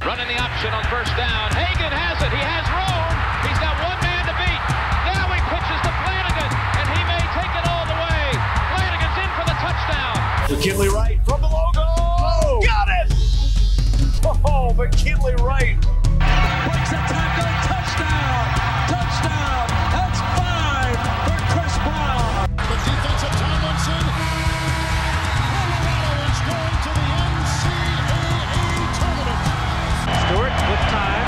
Running the option on first down. Hagan has it. He has room. He's got one man to beat. Now he pitches to Flanagan, and he may take it all the way. Flanagan's in for the touchdown. McKinley Wright from the logo. Oh, got it! Oh, McKinley Wright. Breaks a tackle. Touchdown. Touchdown. That's 5 for Chris Brown. The defensive Tomlinson. Colorado is going to the NCAA tournament. Stewart with time.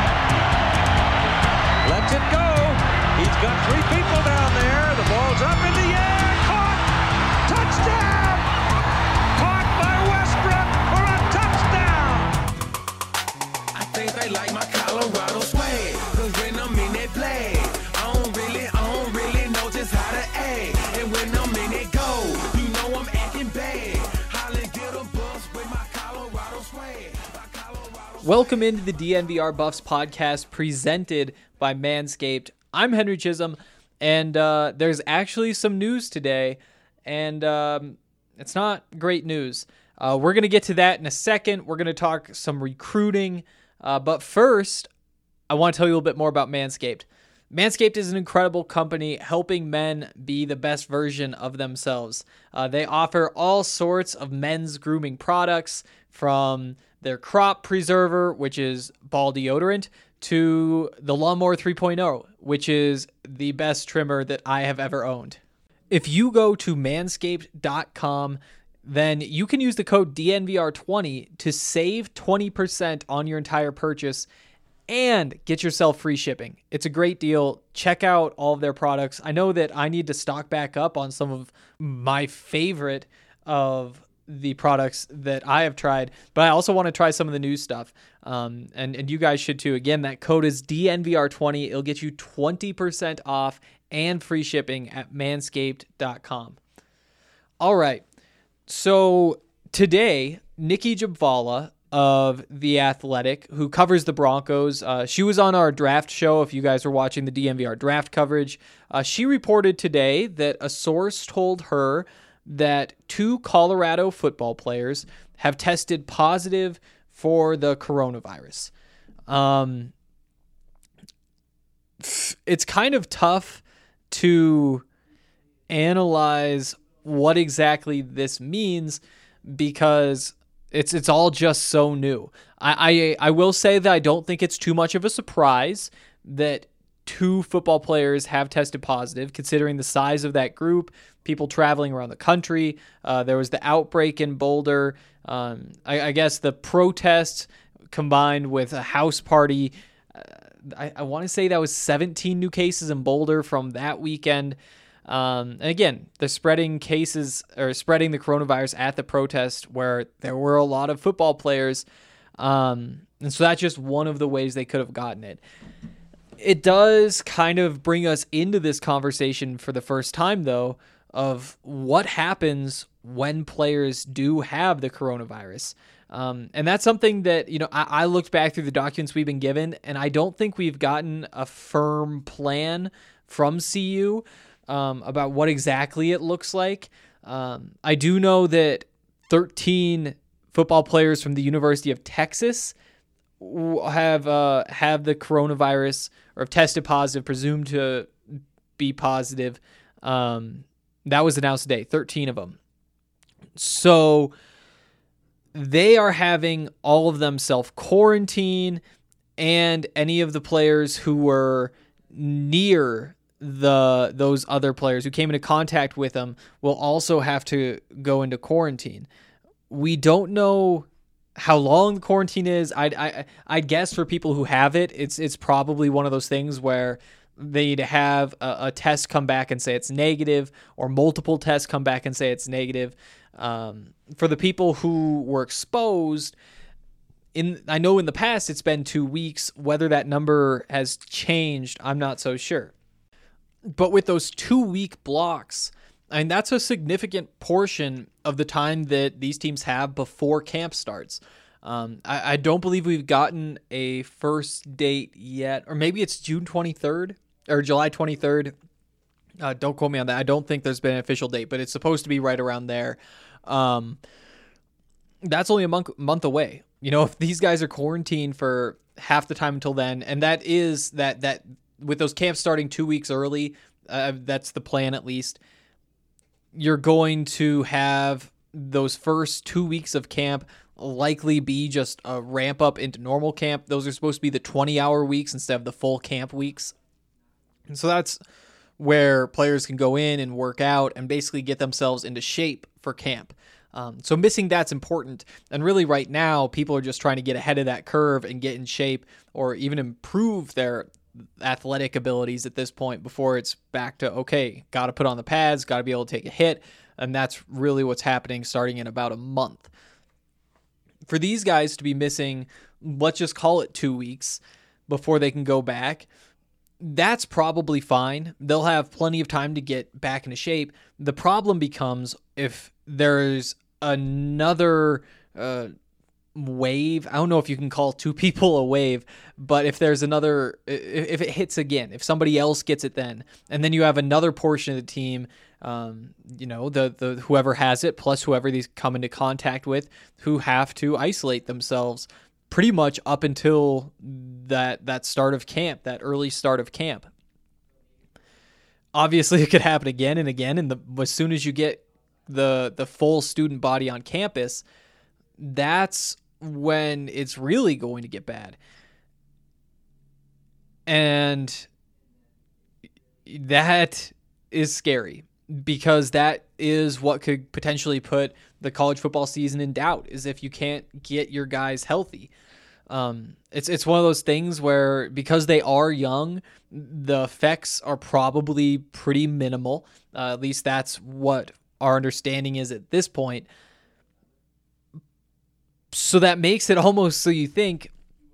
Lets it go. He's got 3 people down there. The ball's up in the air. Caught. Touchdown. Caught by Westbrook for a touchdown. I think they like my Colorado swag. Cause when I'm in that play, I don't really know just how to act. And when I'm in it go, you know I'm acting bad. Holly get a bus with my Colorado swag. Welcome into the DNVR Buffs podcast presented by Manscaped. I'm Henry Chisholm, and there's actually some news today, and it's not great news. We're going to get to that in a second. We're going to talk some recruiting, but first, I want to tell you a little bit more about Manscaped. Manscaped is an incredible company helping men be the best version of themselves. They offer all sorts of men's grooming products, from their crop preserver, which is ball deodorant, to the Lawnmower 3.0, which is the best trimmer that I have ever owned. If you go to manscaped.com, then you can use the code DNVR20 to save 20% on your entire purchase and get yourself free shipping. It's a great deal. Check out all of their products. I know that I need to stock back up on some of my favorite of the products that I have tried, but I also want to try some of the new stuff. And you guys should too. Again, that code is DNVR20. It'll get you 20% off and free shipping at manscaped.com. All right. So today, Nikki Jabvala of The Athletic, who covers the Broncos, she was on our draft show. If you guys were watching the DNVR draft coverage, she reported today that a source told her that 2 Colorado football players have tested positive for the coronavirus. It's kind of tough to analyze what exactly this means because it's all just so new. I will say that I don't think it's too much of a surprise that 2 football players have tested positive, considering the size of that group, people traveling around the country. There was the outbreak in Boulder. I guess the protests combined with a house party. I want to say that was 17 new cases in Boulder from that weekend. And again, they're spreading cases or spreading the coronavirus at the protest where there were a lot of football players. And so that's just one of the ways they could have gotten it. It does kind of bring us into this conversation for the first time, though, of what happens when players do have the coronavirus. And that's something that, I looked back through the documents we've been given, and I don't think we've gotten a firm plan from CU about what exactly it looks like. I do know that 13 football players from the University of Texas have the coronavirus or have tested positive, presumed to be positive. That was announced today, 13 of them. So they are having all of them self-quarantine, and any of the players who were near those other players who came into contact with them will also have to go into quarantine. We don't know how long the quarantine is. I'd guess for people who have it, it's probably one of those things where they need to have a test come back and say it's negative, or multiple tests come back and say it's negative. For the people who were exposed, I know in the past it's been 2 weeks. Whether that number has changed, I'm not so sure. But with those 2-week blocks, that's a significant portion of the time that these teams have before camp starts. I don't believe we've gotten a first date yet, or maybe it's June 23rd or July 23rd. Don't quote me on that. I don't think there's been an official date, but it's supposed to be right around there. That's only a month away. If these guys are quarantined for half the time until then, and that is that with those camps starting 2 weeks early, that's the plan at least, you're going to have those first 2 weeks of camp likely be just a ramp up into normal camp. Those are supposed to be the 20-hour weeks instead of the full camp weeks. And so that's where players can go in and work out and basically get themselves into shape for camp. So missing that's important. And really right now, people are just trying to get ahead of that curve and get in shape or even improve their athletic abilities at this point before it's back to, okay, got to put on the pads, got to be able to take a hit. And that's really what's happening starting in about a month. For these guys to be missing, let's just call it 2 weeks before they can go back, that's probably fine. They'll have plenty of time to get back into shape. The problem becomes if there's another wave. I don't know if you can call 2 people a wave, but if there's another, if it hits again, if somebody else gets it then, and then you have another portion of the team, the whoever has it plus whoever these come into contact with, who have to isolate themselves pretty much up until that start of camp, that early start of camp. Obviously, it could happen again and again, and as soon as you get the full student body on campus, that's when it's really going to get bad. And that is scary because that is what could potentially put the college football season in doubt, is if you can't get your guys healthy. It's one of those things where because they are young, the effects are probably pretty minimal. At least that's what our understanding is at this point. So that makes it almost so you think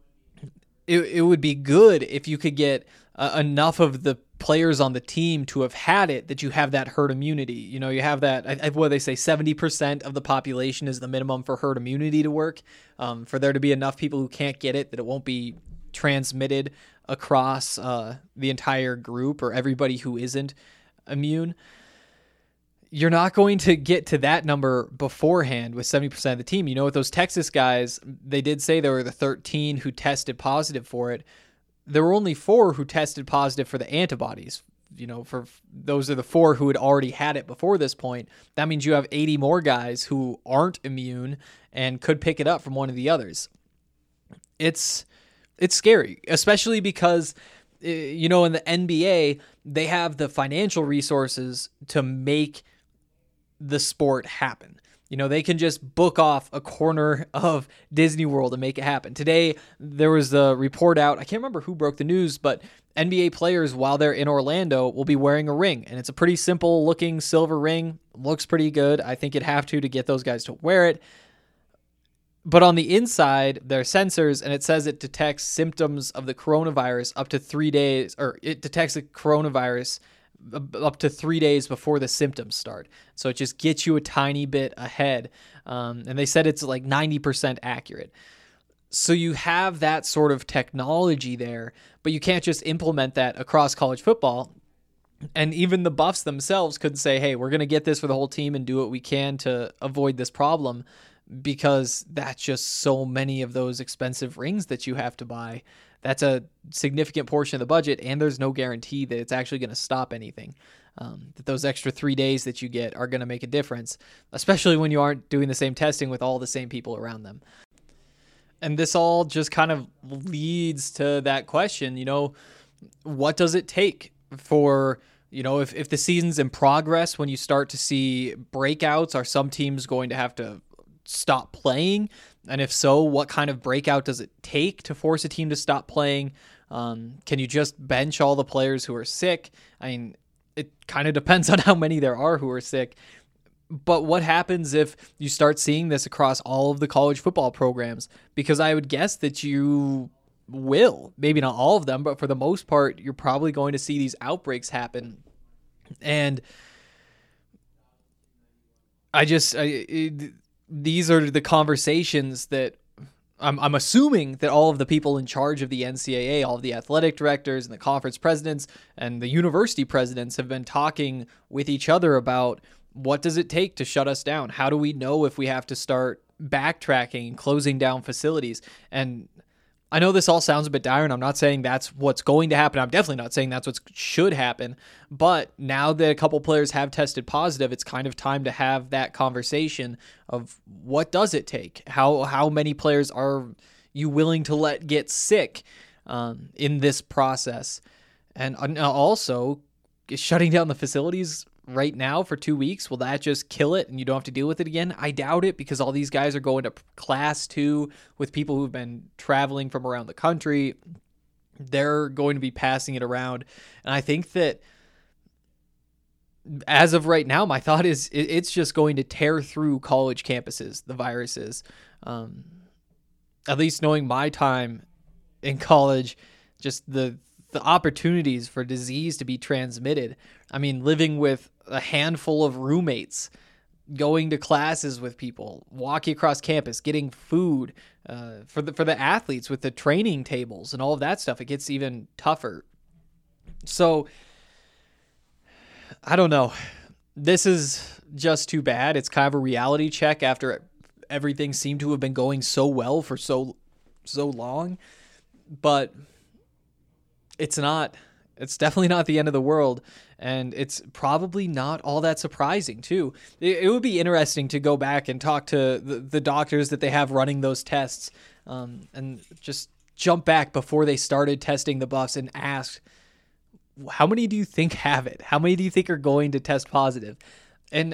it would be good if you could get enough of the players on the team to have had it, that you have that herd immunity. You have that, what they say, 70% of the population is the minimum for herd immunity to work, for there to be enough people who can't get it, that it won't be transmitted across the entire group or everybody who isn't immune. You're not going to get to that number beforehand with 70% of the team. With those Texas guys, they did say there were the 13 who tested positive for it. There were only 4 who tested positive for the antibodies. For those are the 4 who had already had it before this point. That means you have 80 more guys who aren't immune and could pick it up from one of the others. It's scary, especially because in the NBA, they have the financial resources to make the sport happen. They can just book off a corner of Disney World and make it happen. Today, there was a report out, I can't remember who broke the news, but NBA players, while they're in Orlando, will be wearing a ring. And it's a pretty simple looking silver ring. Looks pretty good. I think you'd have to get those guys to wear it. But on the inside, there are sensors, and it says it detects symptoms of the coronavirus up to 3 days, or it detects the coronavirus up to 3 days before the symptoms start. So it just gets you a tiny bit ahead. And they said it's like 90% accurate. So you have that sort of technology there, but you can't just implement that across college football. And even the Buffs themselves could say, hey, we're going to get this for the whole team and do what we can to avoid this problem, because that's just so many of those expensive rings that you have to buy. That's a significant portion of the budget, and there's no guarantee that it's actually going to stop anything. That those extra 3 days that you get are going to make a difference, especially when you aren't doing the same testing with all the same people around them. And this all just kind of leads to that question, what does it take for, if the season's in progress, when you start to see breakouts, are some teams going to have to stop playing? And if so, what kind of breakout does it take to force a team to stop playing? Can you just bench all the players who are sick? I mean, it kind of depends on how many there are who are sick. But what happens if you start seeing this across all of the college football programs? Because I would guess that you will. Maybe not all of them, but for the most part, you're probably going to see these outbreaks happen. And these are the conversations that I'm assuming that all of the people in charge of the NCAA, all of the athletic directors and the conference presidents and the university presidents have been talking with each other about What does it take to shut us down? How do we know if we have to start backtracking and closing down facilities? And I know this all sounds a bit dire, and I'm not saying that's what's going to happen. I'm definitely not saying that's what should happen. But now that a couple players have tested positive, it's kind of time to have that conversation of what does it take? How many players are you willing to let get sick in this process? And also, shutting down the facilities right now for 2 weeks, will that just kill it and you don't have to deal with it again? I doubt it, because all these guys are going to class 2 with people who've been traveling from around the country. They're going to be passing it around. And I think that as of right now, my thought is it's just going to tear through college campuses, the viruses. At least knowing my time in college, just the opportunities for disease to be transmitted. I mean, living with a handful of roommates, going to classes with people, walking across campus, getting food for the athletes with the training tables and all of that stuff, it gets even tougher. So I don't know. This is just too bad. It's kind of a reality check after everything seemed to have been going so well for so long, but it's not. It's definitely not the end of the world, and it's probably not all that surprising, too. It would be interesting to go back and talk to the doctors that they have running those tests and just jump back before they started testing the Buffs and ask, how many do you think have it? How many do you think are going to test positive? And,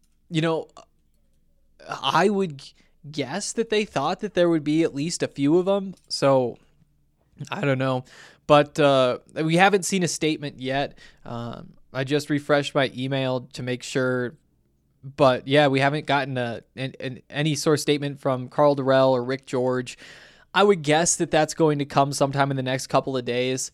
I would guess that they thought that there would be at least a few of them, so I don't know. But we haven't seen a statement yet. I just refreshed my email to make sure. But yeah, we haven't gotten any sort of statement from Karl Dorrell or Rick George. I would guess that that's going to come sometime in the next couple of days.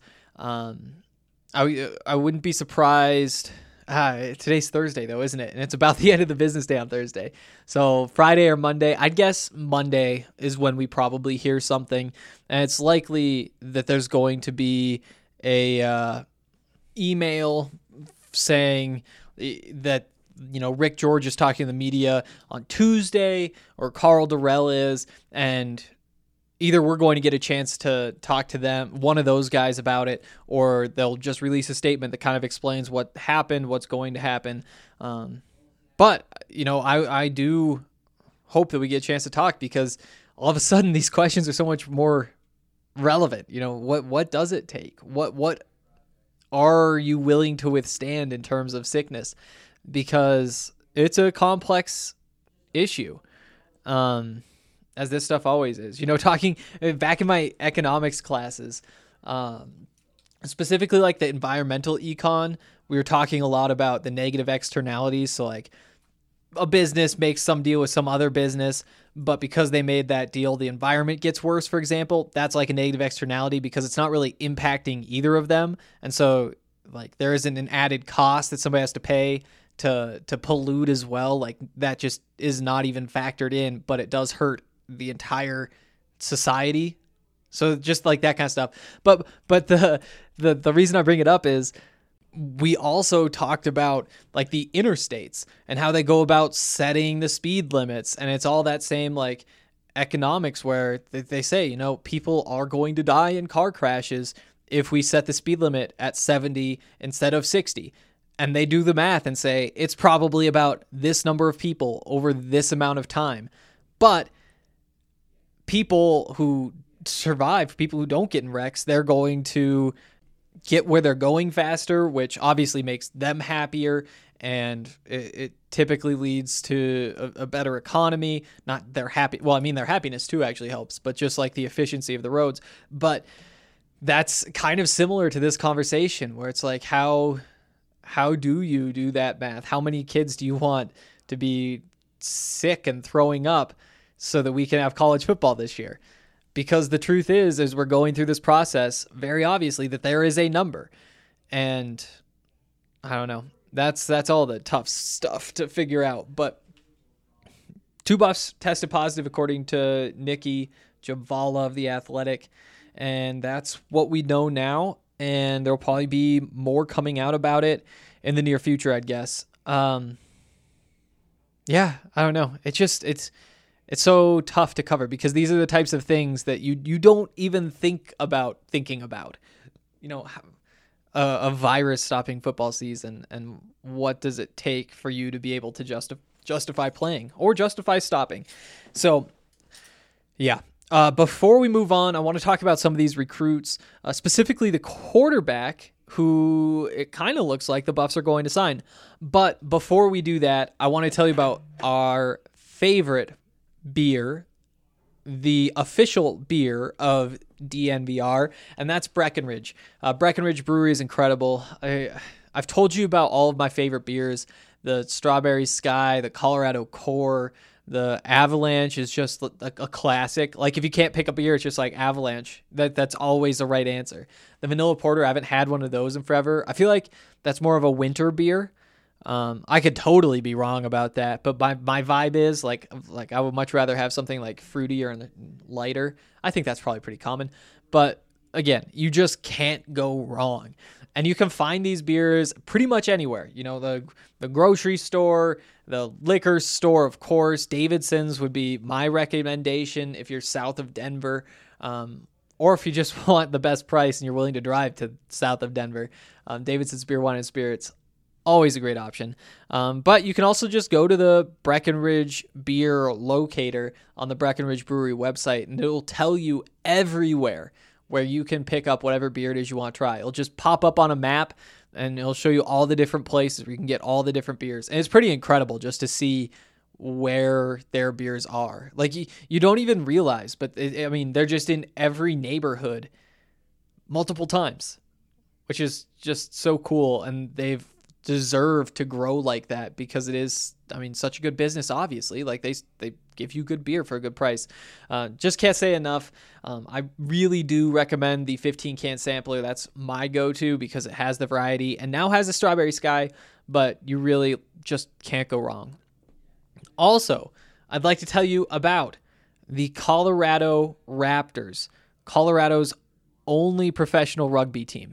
I wouldn't be surprised. Today's Thursday, though, isn't it? And it's about the end of the business day on Thursday. So Friday or Monday, I'd guess Monday is when we probably hear something. And it's likely that there's going to be a email saying that, Rick George is talking to the media on Tuesday, or Karl Dorrell is, and either we're going to get a chance to talk to them, one of those guys, about it, or they'll just release a statement that kind of explains what happened, what's going to happen. But, I do hope that we get a chance to talk, because all of a sudden these questions are so much more relevant. What does it take? What are you willing to withstand in terms of sickness? Because it's a complex issue. As this stuff always is. Talking back in my economics classes, specifically like the environmental econ, we were talking a lot about the negative externalities. So like a business makes some deal with some other business, but because they made that deal, the environment gets worse, for example. That's like a negative externality because it's not really impacting either of them. And so like there isn't an added cost that somebody has to pay to pollute as well. Like that just is not even factored in, but it does hurt the entire society. So just like that kind of stuff. But the reason I bring it up is we also talked about like the interstates and how they go about setting the speed limits. And it's all that same like economics where they say, people are going to die in car crashes if we set the speed limit at 70 instead of 60. And they do the math and say it's probably about this number of people over this amount of time. But people who survive, people who don't get in wrecks, they're going to get where they're going faster, which obviously makes them happier, and it typically leads to a better economy. Not their happy. Well, I mean, their happiness too actually helps, but just like the efficiency of the roads. But that's kind of similar to this conversation where it's like, how do you do that math? How many kids do you want to be sick and throwing up so that we can have college football this year? Because the truth is, as we're going through this process, very obviously that there is a number. And I don't know. That's all the tough stuff to figure out. But 2 Buffs tested positive according to Nikki Javala of The Athletic. And that's what we know now. And there'll probably be more coming out about it in the near future, I'd guess. Yeah, I don't know. It's so tough to cover because these are the types of things that you don't even think about thinking about. You know, a virus stopping football season, and what does it take for you to be able to justify playing or justify stopping? So, yeah. Before we move on, I want to talk about some of these recruits, specifically the quarterback, who it kind of looks like the Buffs are going to sign. But before we do that, I want to tell you about our favorite beer, the official beer of DNVR, and that's Breckenridge. Breckenridge Brewery is incredible. I've told you about all of my favorite beers. The Strawberry Sky, the Colorado Core, the Avalanche is just a classic. Like, if you can't pick up a beer, it's just like Avalanche. That's always the right answer. The Vanilla Porter, I haven't had one of those in forever. I feel like that's more of a winter beer. I could totally be wrong about that, but my vibe is like I would much rather have something like fruitier and lighter. I think that's probably pretty common, but again, you just can't go wrong. And you can find these beers pretty much anywhere. You know, the grocery store, the liquor store, of course. Davidson's would be my recommendation if you're south of Denver, or if you just want the best price and you're willing to drive to south of Denver. Davidson's Beer, Wine, and Spirits, always a great option. But you can also just go to the Breckenridge Beer locator on the Breckenridge Brewery website, and it'll tell you everywhere where you can pick up whatever beer it is you want to try. It'll just pop up on a map, and it'll show you all the different places where you can get all the different beers. And it's pretty incredible just to see where their beers are. Like, you don't even realize, but they're just in every neighborhood multiple times, which is just so cool. And they've deserved to grow like that because it is, such a good business, obviously. Like, they give you good beer for a good price. Just can't say enough. I really do recommend the 15-can sampler. That's my go-to because it has the variety and now has a Strawberry Sky, but you really just can't go wrong. Also, I'd like to tell you about the Colorado Raptors, Colorado's only professional rugby team.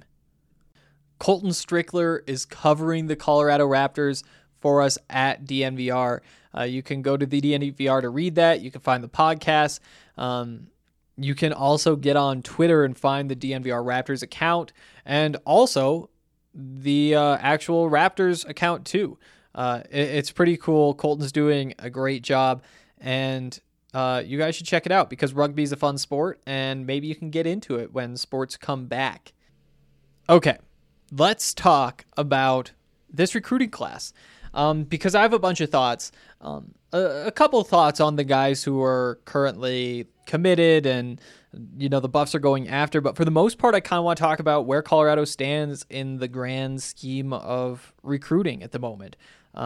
Colton Strickler is covering the Colorado Raptors for us at DNVR. You can go to the DNVR to read that. You can find the podcast. You can also get on Twitter and find the DNVR Raptors account, and also the actual Raptors account too. It's pretty cool. Colton's doing a great job, and you guys should check it out because rugby is a fun sport, and maybe you can get into it when sports come back. Okay, let's talk about this recruiting class. Because I have a bunch of thoughts, a couple of thoughts on the guys who are currently committed and, the Buffs are going after. But for the most part, I kind of want to talk about where Colorado stands in the grand scheme of recruiting at the moment.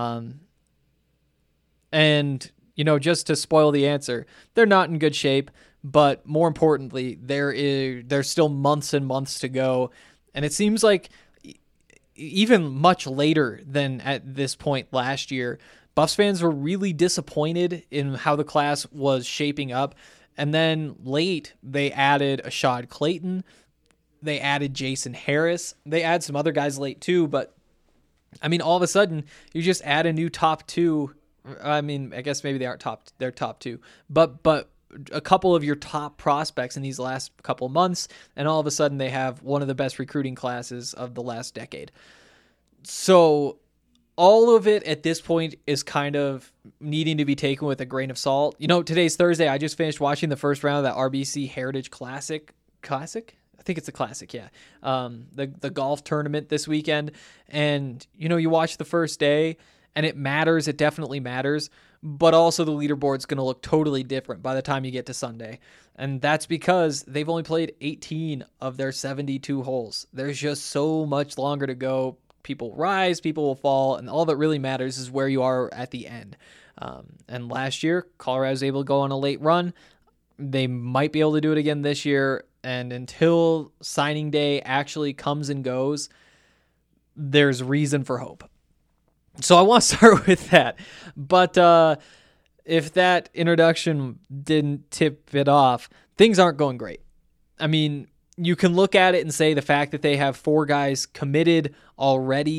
And, just to spoil the answer, they're not in good shape. But more importantly, there's still months and months to go. And it seems like even much later than at this point last year, Buffs fans were really disappointed in how the class was shaping up. And then late, they added Ashad Clayton. They added Jason Harris. They add some other guys late too. But, all of a sudden, you just add a new top two. I guess maybe they aren't they're top two. But a couple of your top prospects in these last couple of months, and all of a sudden they have one of the best recruiting classes of the last decade. So all of it at this point is kind of needing to be taken with a grain of salt. Today's Thursday. I just finished watching the first round of that RBC Heritage Classic? I think it's a classic, yeah. The golf tournament this weekend. And, you watch the first day, and it matters. It definitely matters. But also the leaderboard's going to look totally different by the time you get to Sunday. And that's because they've only played 18 of their 72 holes. There's just so much longer to go. People rise, people will fall, and all that really matters is where you are at the end. And last year, Colorado was able to go on a late run. They might be able to do it again this year. And until signing day actually comes and goes, there's reason for hope. So I want to start with that. But if that introduction didn't tip it off, things aren't going great. You can look at it and say the fact that they have 4 guys committed already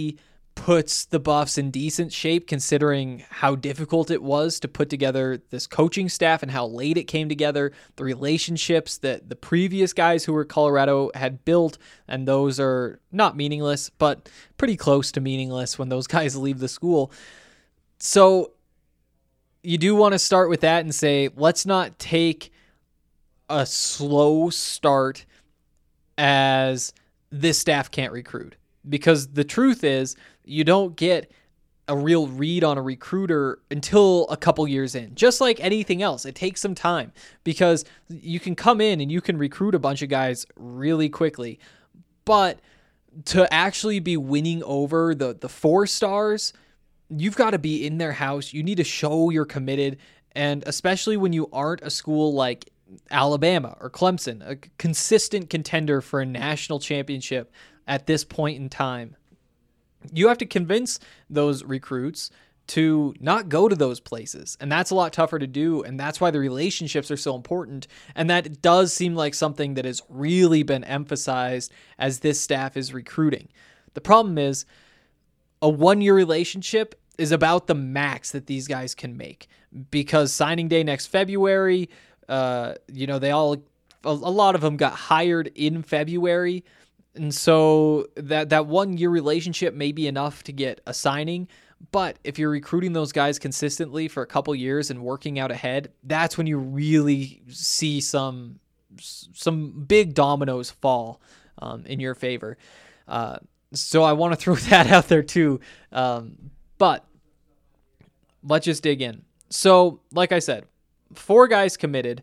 puts the Buffs in decent shape considering how difficult it was to put together this coaching staff and how late it came together, the relationships that the previous guys who were Colorado had built, and those are not meaningless, but pretty close to meaningless when those guys leave the school. So you do want to start with that and say, let's not take a slow start as this staff can't recruit. Because the truth is, you don't get a real read on a recruiter until a couple years in. Just like anything else, it takes some time because you can come in and you can recruit a bunch of guys really quickly. But to actually be winning over the 4 stars, you've got to be in their house. You need to show you're committed. And especially when you aren't a school like Alabama or Clemson, a consistent contender for a national championship at this point in time, you have to convince those recruits to not go to those places. And that's a lot tougher to do. And that's why the relationships are so important. And that does seem like something that has really been emphasized as this staff is recruiting. The problem is a 1-year relationship is about the max that these guys can make, because signing day next February, a lot of them got hired in February. And so that 1-year relationship may be enough to get a signing. But if you're recruiting those guys consistently for a couple years and working out ahead, that's when you really see some big dominoes fall in your favor. So I want to throw that out there too. But let's just dig in. So like I said, 4 guys committed.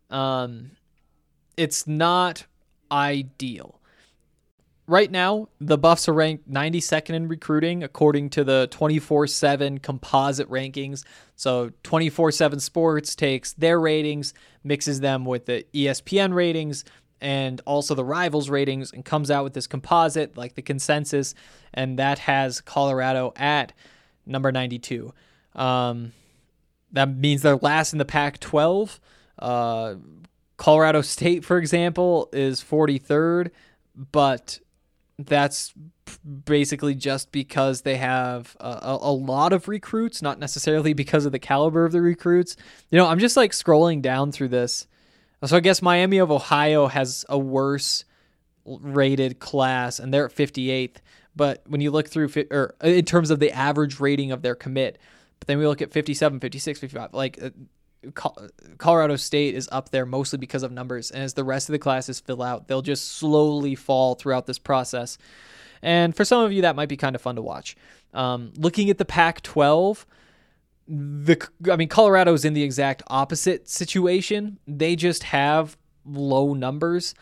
It's not ideal. Right now, the Buffs are ranked 92nd in recruiting according to the 24/7 composite rankings. So 24/7 Sports takes their ratings, mixes them with the ESPN ratings and also the Rivals ratings, and comes out with this composite, like the consensus, and that has Colorado at number 92. That means they're last in the Pac-12. Colorado State, for example, is 43rd, but that's basically just because they have a lot of recruits, not necessarily because of the caliber of the recruits. I'm just like scrolling down through this. So I guess Miami of Ohio has a worse rated class, and they're at 58th. But when you look through, or in terms of the average rating of their commit, but then we look at 57, 56, 55, like Colorado State is up there mostly because of numbers, and as the rest of the classes fill out, they'll just slowly fall throughout this process. And for some of you, that might be kind of fun to watch. Looking at the Pac-12, Colorado's in the exact opposite situation. They just have low numbers.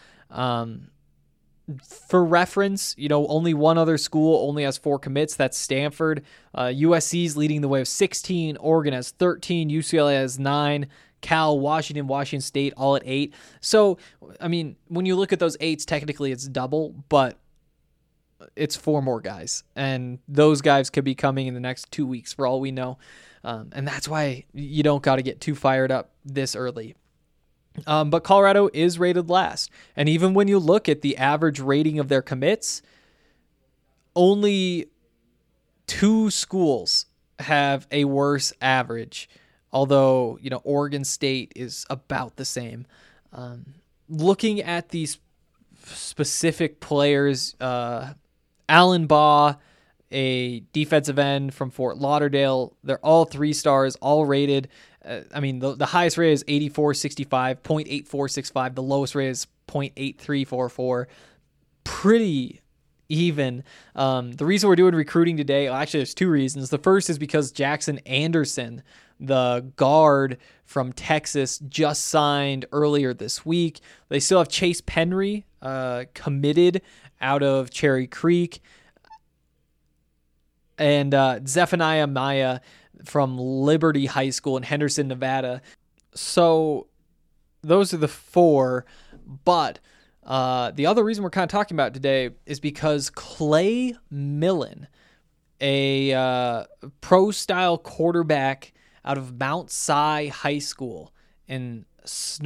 For reference, only one other school only has 4 commits. That's Stanford. USC's leading the way with 16. Oregon has 13. UCLA has 9. Cal, Washington State, all at 8. So, when you look at those 8s, technically it's double, but it's 4 more guys. And those guys could be coming in the next 2 weeks for all we know. And that's why you don't got to get too fired up this early. But Colorado is rated last. And even when you look at the average rating of their commits, only 2 schools have a worse average. Although, Oregon State is about the same. Looking at these specific players, Alan Baugh, a defensive end from Fort Lauderdale, they're all 3 stars, all rated. The highest rate is 84.65, 0.8465. The lowest rate is 0.8344. Pretty even. The reason we're doing recruiting today, actually there's 2 reasons. The first is because Jackson Anderson, the guard from Texas, just signed earlier this week. They still have Chase Penry committed out of Cherry Creek, and Zephaniah Maya from Liberty High School in Henderson, Nevada. So those are the 4. But the other reason we're kind of talking about it today is because Clay Millen, a pro-style quarterback out of Mount Si High School in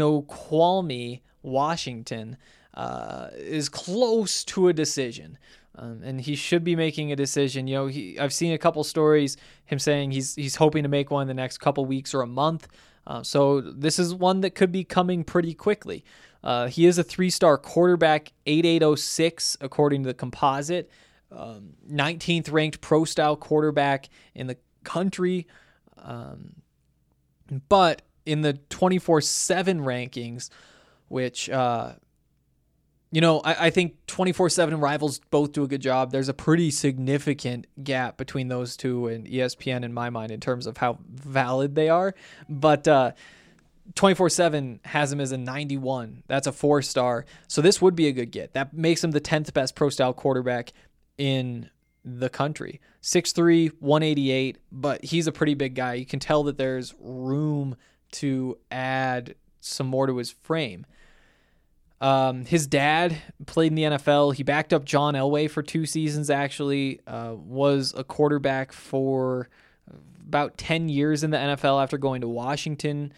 Snoqualmie, Washington, is close to a decision. And he should be making a decision. I've seen a couple stories, him saying he's hoping to make one in the next couple weeks or a month. So this is one that could be coming pretty quickly. He is a 3-star quarterback, 8806 according to the composite, 19th ranked pro style quarterback in the country. But in the 24/7 rankings, which, I think 24/7 and Rivals both do a good job. There's a pretty significant gap between those two and ESPN in my mind in terms of how valid they are. But 24/7 has him as a 91. That's a 4-star. So this would be a good get. That makes him the 10th best pro style quarterback in the country. 6'3", 188, but he's a pretty big guy. You can tell that there's room to add some more to his frame. His dad played in the NFL. He backed up John Elway for 2 seasons, actually. Was a quarterback for about 10 years in the NFL after going to Washington.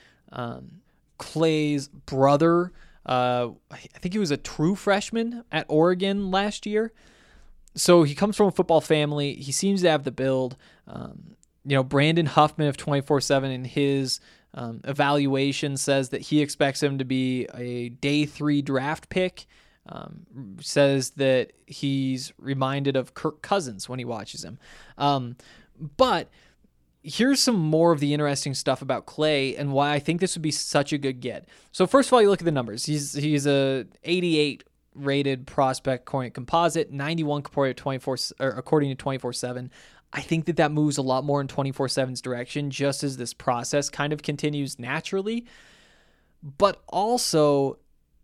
Clay's brother, I think he was a true freshman at Oregon last year. So he comes from a football family. He seems to have the build. Brandon Huffman of 24/7 in his evaluation says that he expects him to be a day 3 draft pick. Says that he's reminded of Kirk Cousins when he watches him. But here's some more of the interesting stuff about Clay and why I think this would be such a good get. So first of all, you look at the numbers. He's a 88 rated prospect according to composite, 91 according to 24/7. I think that moves a lot more in 24/7's direction just as this process kind of continues naturally. But also,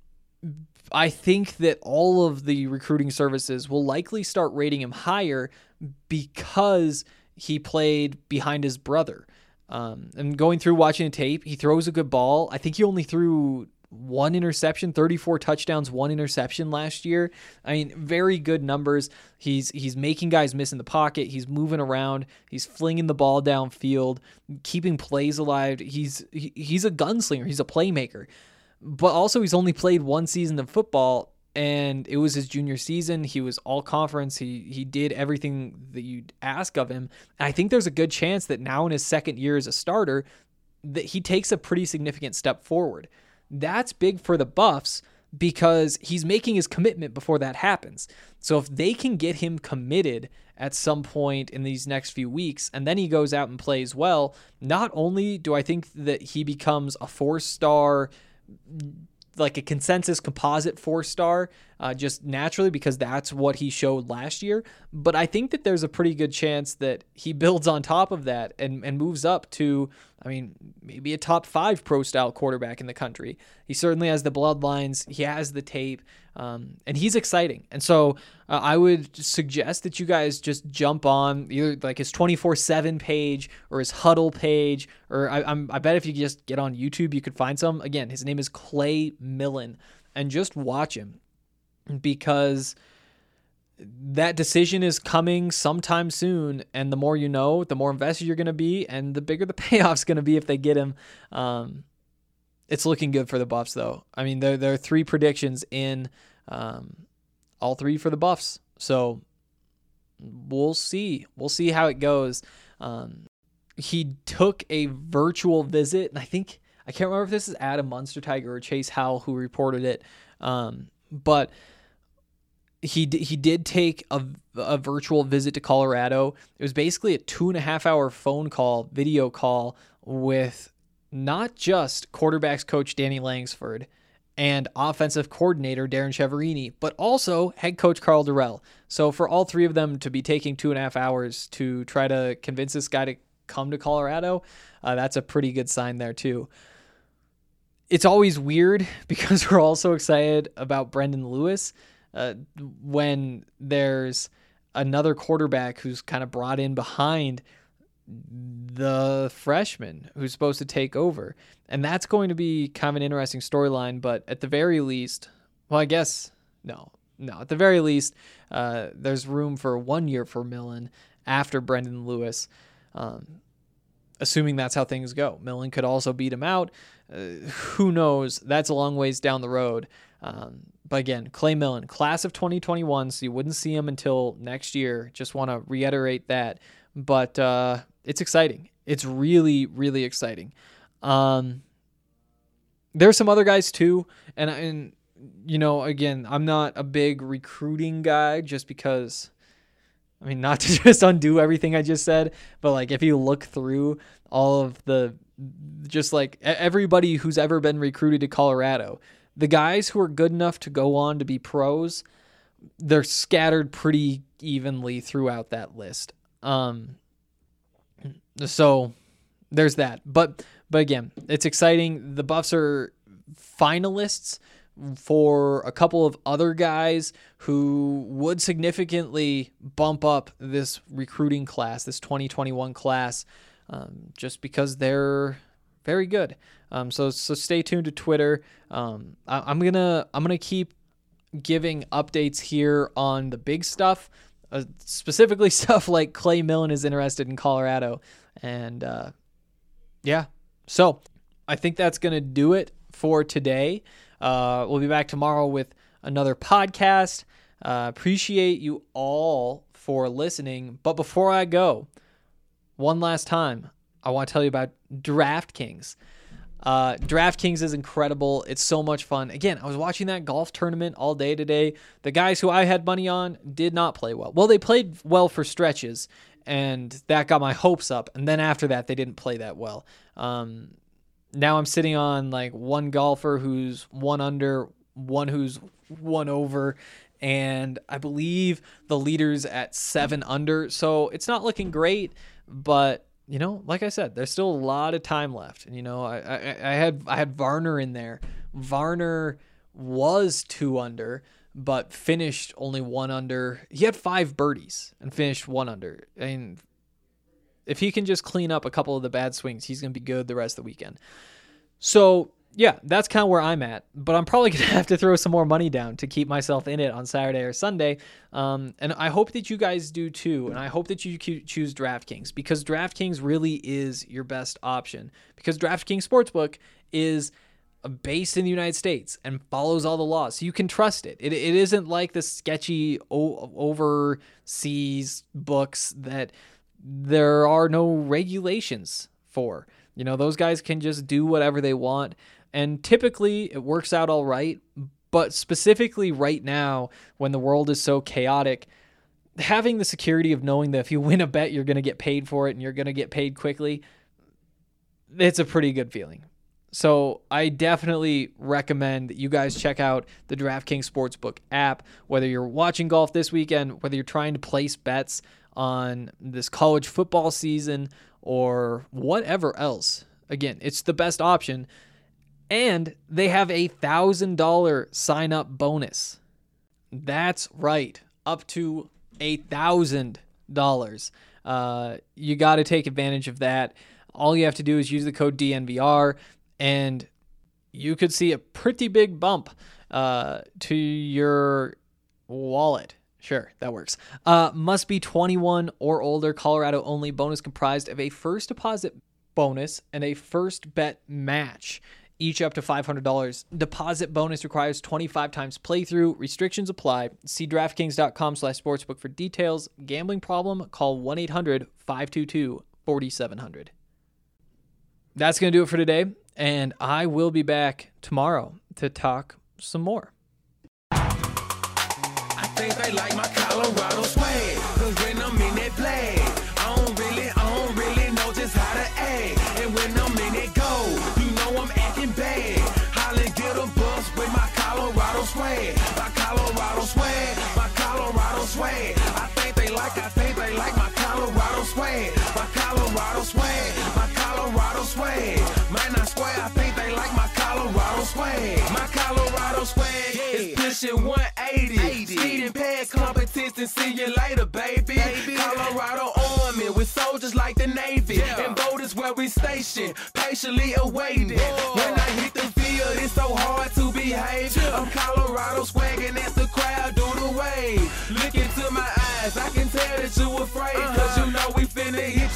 I think that all of the recruiting services will likely start rating him higher because he played behind his brother. And going through watching the tape, he throws a good ball. I think he only threw 1 interception, 34 touchdowns, 1 interception last year. I mean, very good numbers. He's making guys miss in the pocket. He's moving around. He's flinging the ball downfield, keeping plays alive. He's a gunslinger. He's a playmaker. But also, he's only played 1 season of football, and it was his junior season. He was all conference. He did everything that you'd ask of him. And I think there's a good chance that now in his second year as a starter, that he takes a pretty significant step forward. That's big for the Buffs because he's making his commitment before that happens. So if they can get him committed at some point in these next few weeks, and then he goes out and plays well, not only do I think that he becomes a 4-star, like a consensus composite 4-star, just naturally because that's what he showed last year. But I think that there's a pretty good chance that he builds on top of that and moves up to, maybe a top 5 pro style quarterback in the country. He certainly has the bloodlines. He has the tape, and he's exciting. And so I would suggest that you guys just jump on either like his 24/7 page or his Huddle page, or I bet if you just get on YouTube, you could find some. Again, his name is Clay Millen, and just watch him because that decision is coming sometime soon, and the more you know, the more invested you're going to be, and the bigger the payoff's going to be if they get him. It's looking good for the Buffs, though. I mean, there are 3 predictions in, all 3 for the Buffs. So we'll see. We'll see how it goes. He took a virtual visit, and I can't remember if this is Adam Munsterteiger or Chase Howell who reported it, but he did take a virtual visit to Colorado. It was basically a 2.5-hour video call with not just quarterbacks coach Danny Langsford and offensive coordinator Darren Chiaverini, but also head coach Carl Durrell. So for all 3 of them to be taking 2.5 hours to try to convince this guy to come to Colorado, that's a pretty good sign there too. It's always weird because we're all so excited about Brendan Lewis when there's another quarterback who's kind of brought in behind the freshman who's supposed to take over. And that's going to be kind of an interesting storyline, but at the very least, at the very least, there's room for 1 year for Millen after Brendan Lewis, assuming that's how things go. Millen could also beat him out. Who knows? That's a long ways down the road. But again, Clay Millen, class of 2021, so you wouldn't see him until next year. Just want to reiterate that. But it's exciting. It's really, really exciting. There are some other guys too, and you know, again, I'm not a big recruiting guy just because, I mean, not to just undo everything I just said, but like if you look through all of just like everybody who's ever been recruited to Colorado, the guys who are good enough to go on to be pros, they're scattered pretty evenly throughout that list. So there's that. But again, it's exciting. The Buffs are finalists for a couple of other guys who would significantly bump up this recruiting class, this 2021 class, just because they're very good. So stay tuned to Twitter. I'm gonna keep giving updates here on the big stuff, specifically stuff like Clay Millen is interested in Colorado, and yeah. So I think that's gonna do it for today. We'll be back tomorrow with another podcast. Appreciate you all for listening. But before I go, one last time, I want to tell you about DraftKings. DraftKings is incredible. It's so much fun. Again, I was watching that golf tournament all day today. The guys who I had money on did not play well. Well, they played well for stretches, and that got my hopes up. And then after that, they didn't play that well. Now I'm sitting on like one golfer who's 1 under, one who's 1 over, and I believe the leader's at 7 under. So it's not looking great, but you know, like I said, there's still a lot of time left. And you know, I had Varner in there. Varner was 2 under, but finished only 1 under. He had 5 birdies and finished 1 under. I mean, if he can just clean up a couple of the bad swings, he's going to be good the rest of the weekend. So, yeah, that's kind of where I'm at. But I'm probably going to have to throw some more money down to keep myself in it on Saturday or Sunday. And I hope that you guys do too. And I hope that you choose DraftKings, because DraftKings really is your best option. Because DraftKings Sportsbook is based in the United States and follows all the laws. So you can trust it. It isn't like the sketchy overseas books that there are no regulations for. You know, those guys can just do whatever they want, and typically it works out all right. But specifically right now, when the world is so chaotic, having the security of knowing that if you win a bet, you're going to get paid for it and you're going to get paid quickly, it's a pretty good feeling. So I definitely recommend that you guys check out the DraftKings Sportsbook app, whether you're watching golf this weekend, whether you're trying to place bets on this college football season or whatever else. Again, it's the best option. And they have a $1,000 sign-up bonus. That's right, up to $1,000. You got to take advantage of that. All you have to do is use the code DNVR, and you could see a pretty big bump to your wallet. Sure, that works. Must be 21 or older, Colorado only. Bonus comprised of a first deposit bonus and a first bet match, each up to $500. Deposit bonus requires 25 times playthrough. Restrictions apply. See DraftKings.com/sportsbook for details. Gambling problem? Call 1-800-522-4700. That's going to do it for today, and I will be back tomorrow to talk some more. I think they like my Colorado swag, cause when I'm in that flag, I don't really know just how to act. And when I'm in that goal, you know I'm acting bad. Holly get a bus with my Colorado swag. My Colorado swag, my Colorado swag. I think they like my Colorado swag. My Colorado swag, my Colorado swag. Man, I swear I think they like my Colorado swag. My Colorado swag is pushing 180. Speeding past competition, see you later, baby. Colorado Army with soldiers like the Navy. And voters where we station, patiently awaiting. When I hit the field, it's so hard to behave. I'm Colorado swagging as the crowd do the wave. Look into my eyes. eyes, I can tell that you afraid. Cause you know we finna hit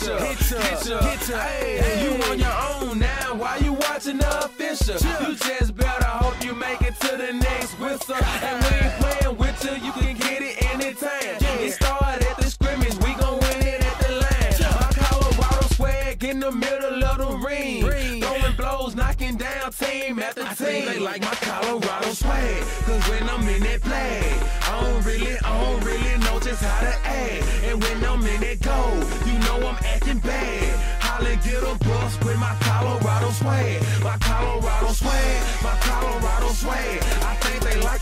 ya. Hey, you on your own now, why you watching the official? You just better hope you make it to the next whistle. And we ain't playing with you, you can get it anytime. It started at the scrimmage, we gon' win it at the line. My Colorado swag in the middle of the ring. Throwing blows, knocking down team after team. I think they like my Colorado swag, cause when I'm in that play, I don't really know just how to act. And when I'm in that goal, you know I'm acting bad. Holla, get a bus with my Colorado swag. My Colorado swag, my Colorado swag. I think they like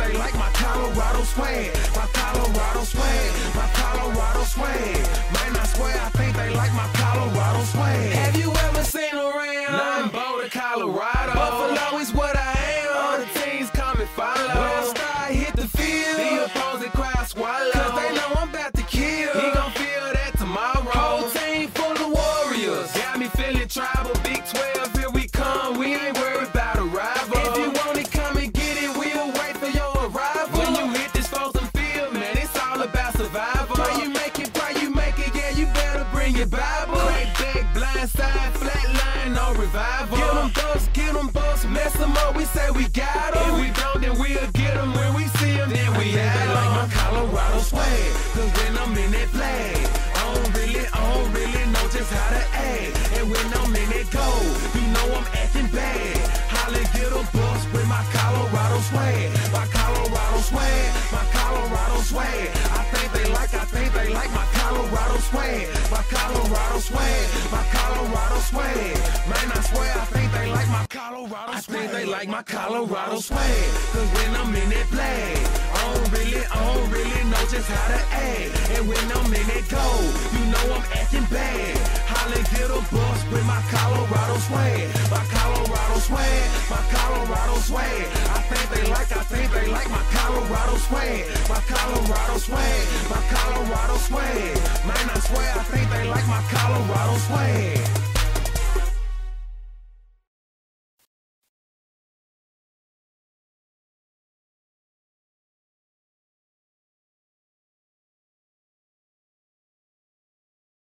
my Colorado swag. My Colorado swag, my Colorado swag. Man, I swear, I think they like my Colorado swag. Have you ever seen around? I'm Boulder, Colorado. Buffalo is what I am. All the teams come and follow. When I start hit the field, the opposing crowd swallow. Cause they know I'm about to kill. He gon' feel that tomorrow. Whole team full of warriors. Got me feeling tribal. Big 12, here we come. We ain't worried about a rival. If you want it, come and get it. We'll wait for your arrival. When you hit this Folsom field, man, it's all about survival. Pray you make it, yeah, you better bring your Bible. Crack back, blind side, flat line, no revival. Get them bucks, mess them up, we say we got them. If we don't, then we'll get them. When we see them, then we have them. Like my Colorado swag, cause when I'm in that flag, I don't really know just how to act. And when I'm in that goal, you know I'm acting bad. Holla, get a bus with my Colorado swag. My Colorado swag, my Colorado swag. I think they like my Colorado swag. My Colorado swag, my Colorado swag. Man, I swear, I think they like my Colorado swag. I think they like my Colorado swag. Cause when I'm in that flag, I don't really know just how to act. And when I'm in that goal, you know I'm acting bad. Holla, get a bus with my Colorado swag. My Colorado swag, my Colorado swag. I think they like my Colorado swag. My Colorado swag, my Colorado swag. Man, I swear, I think they like my Colorado swag.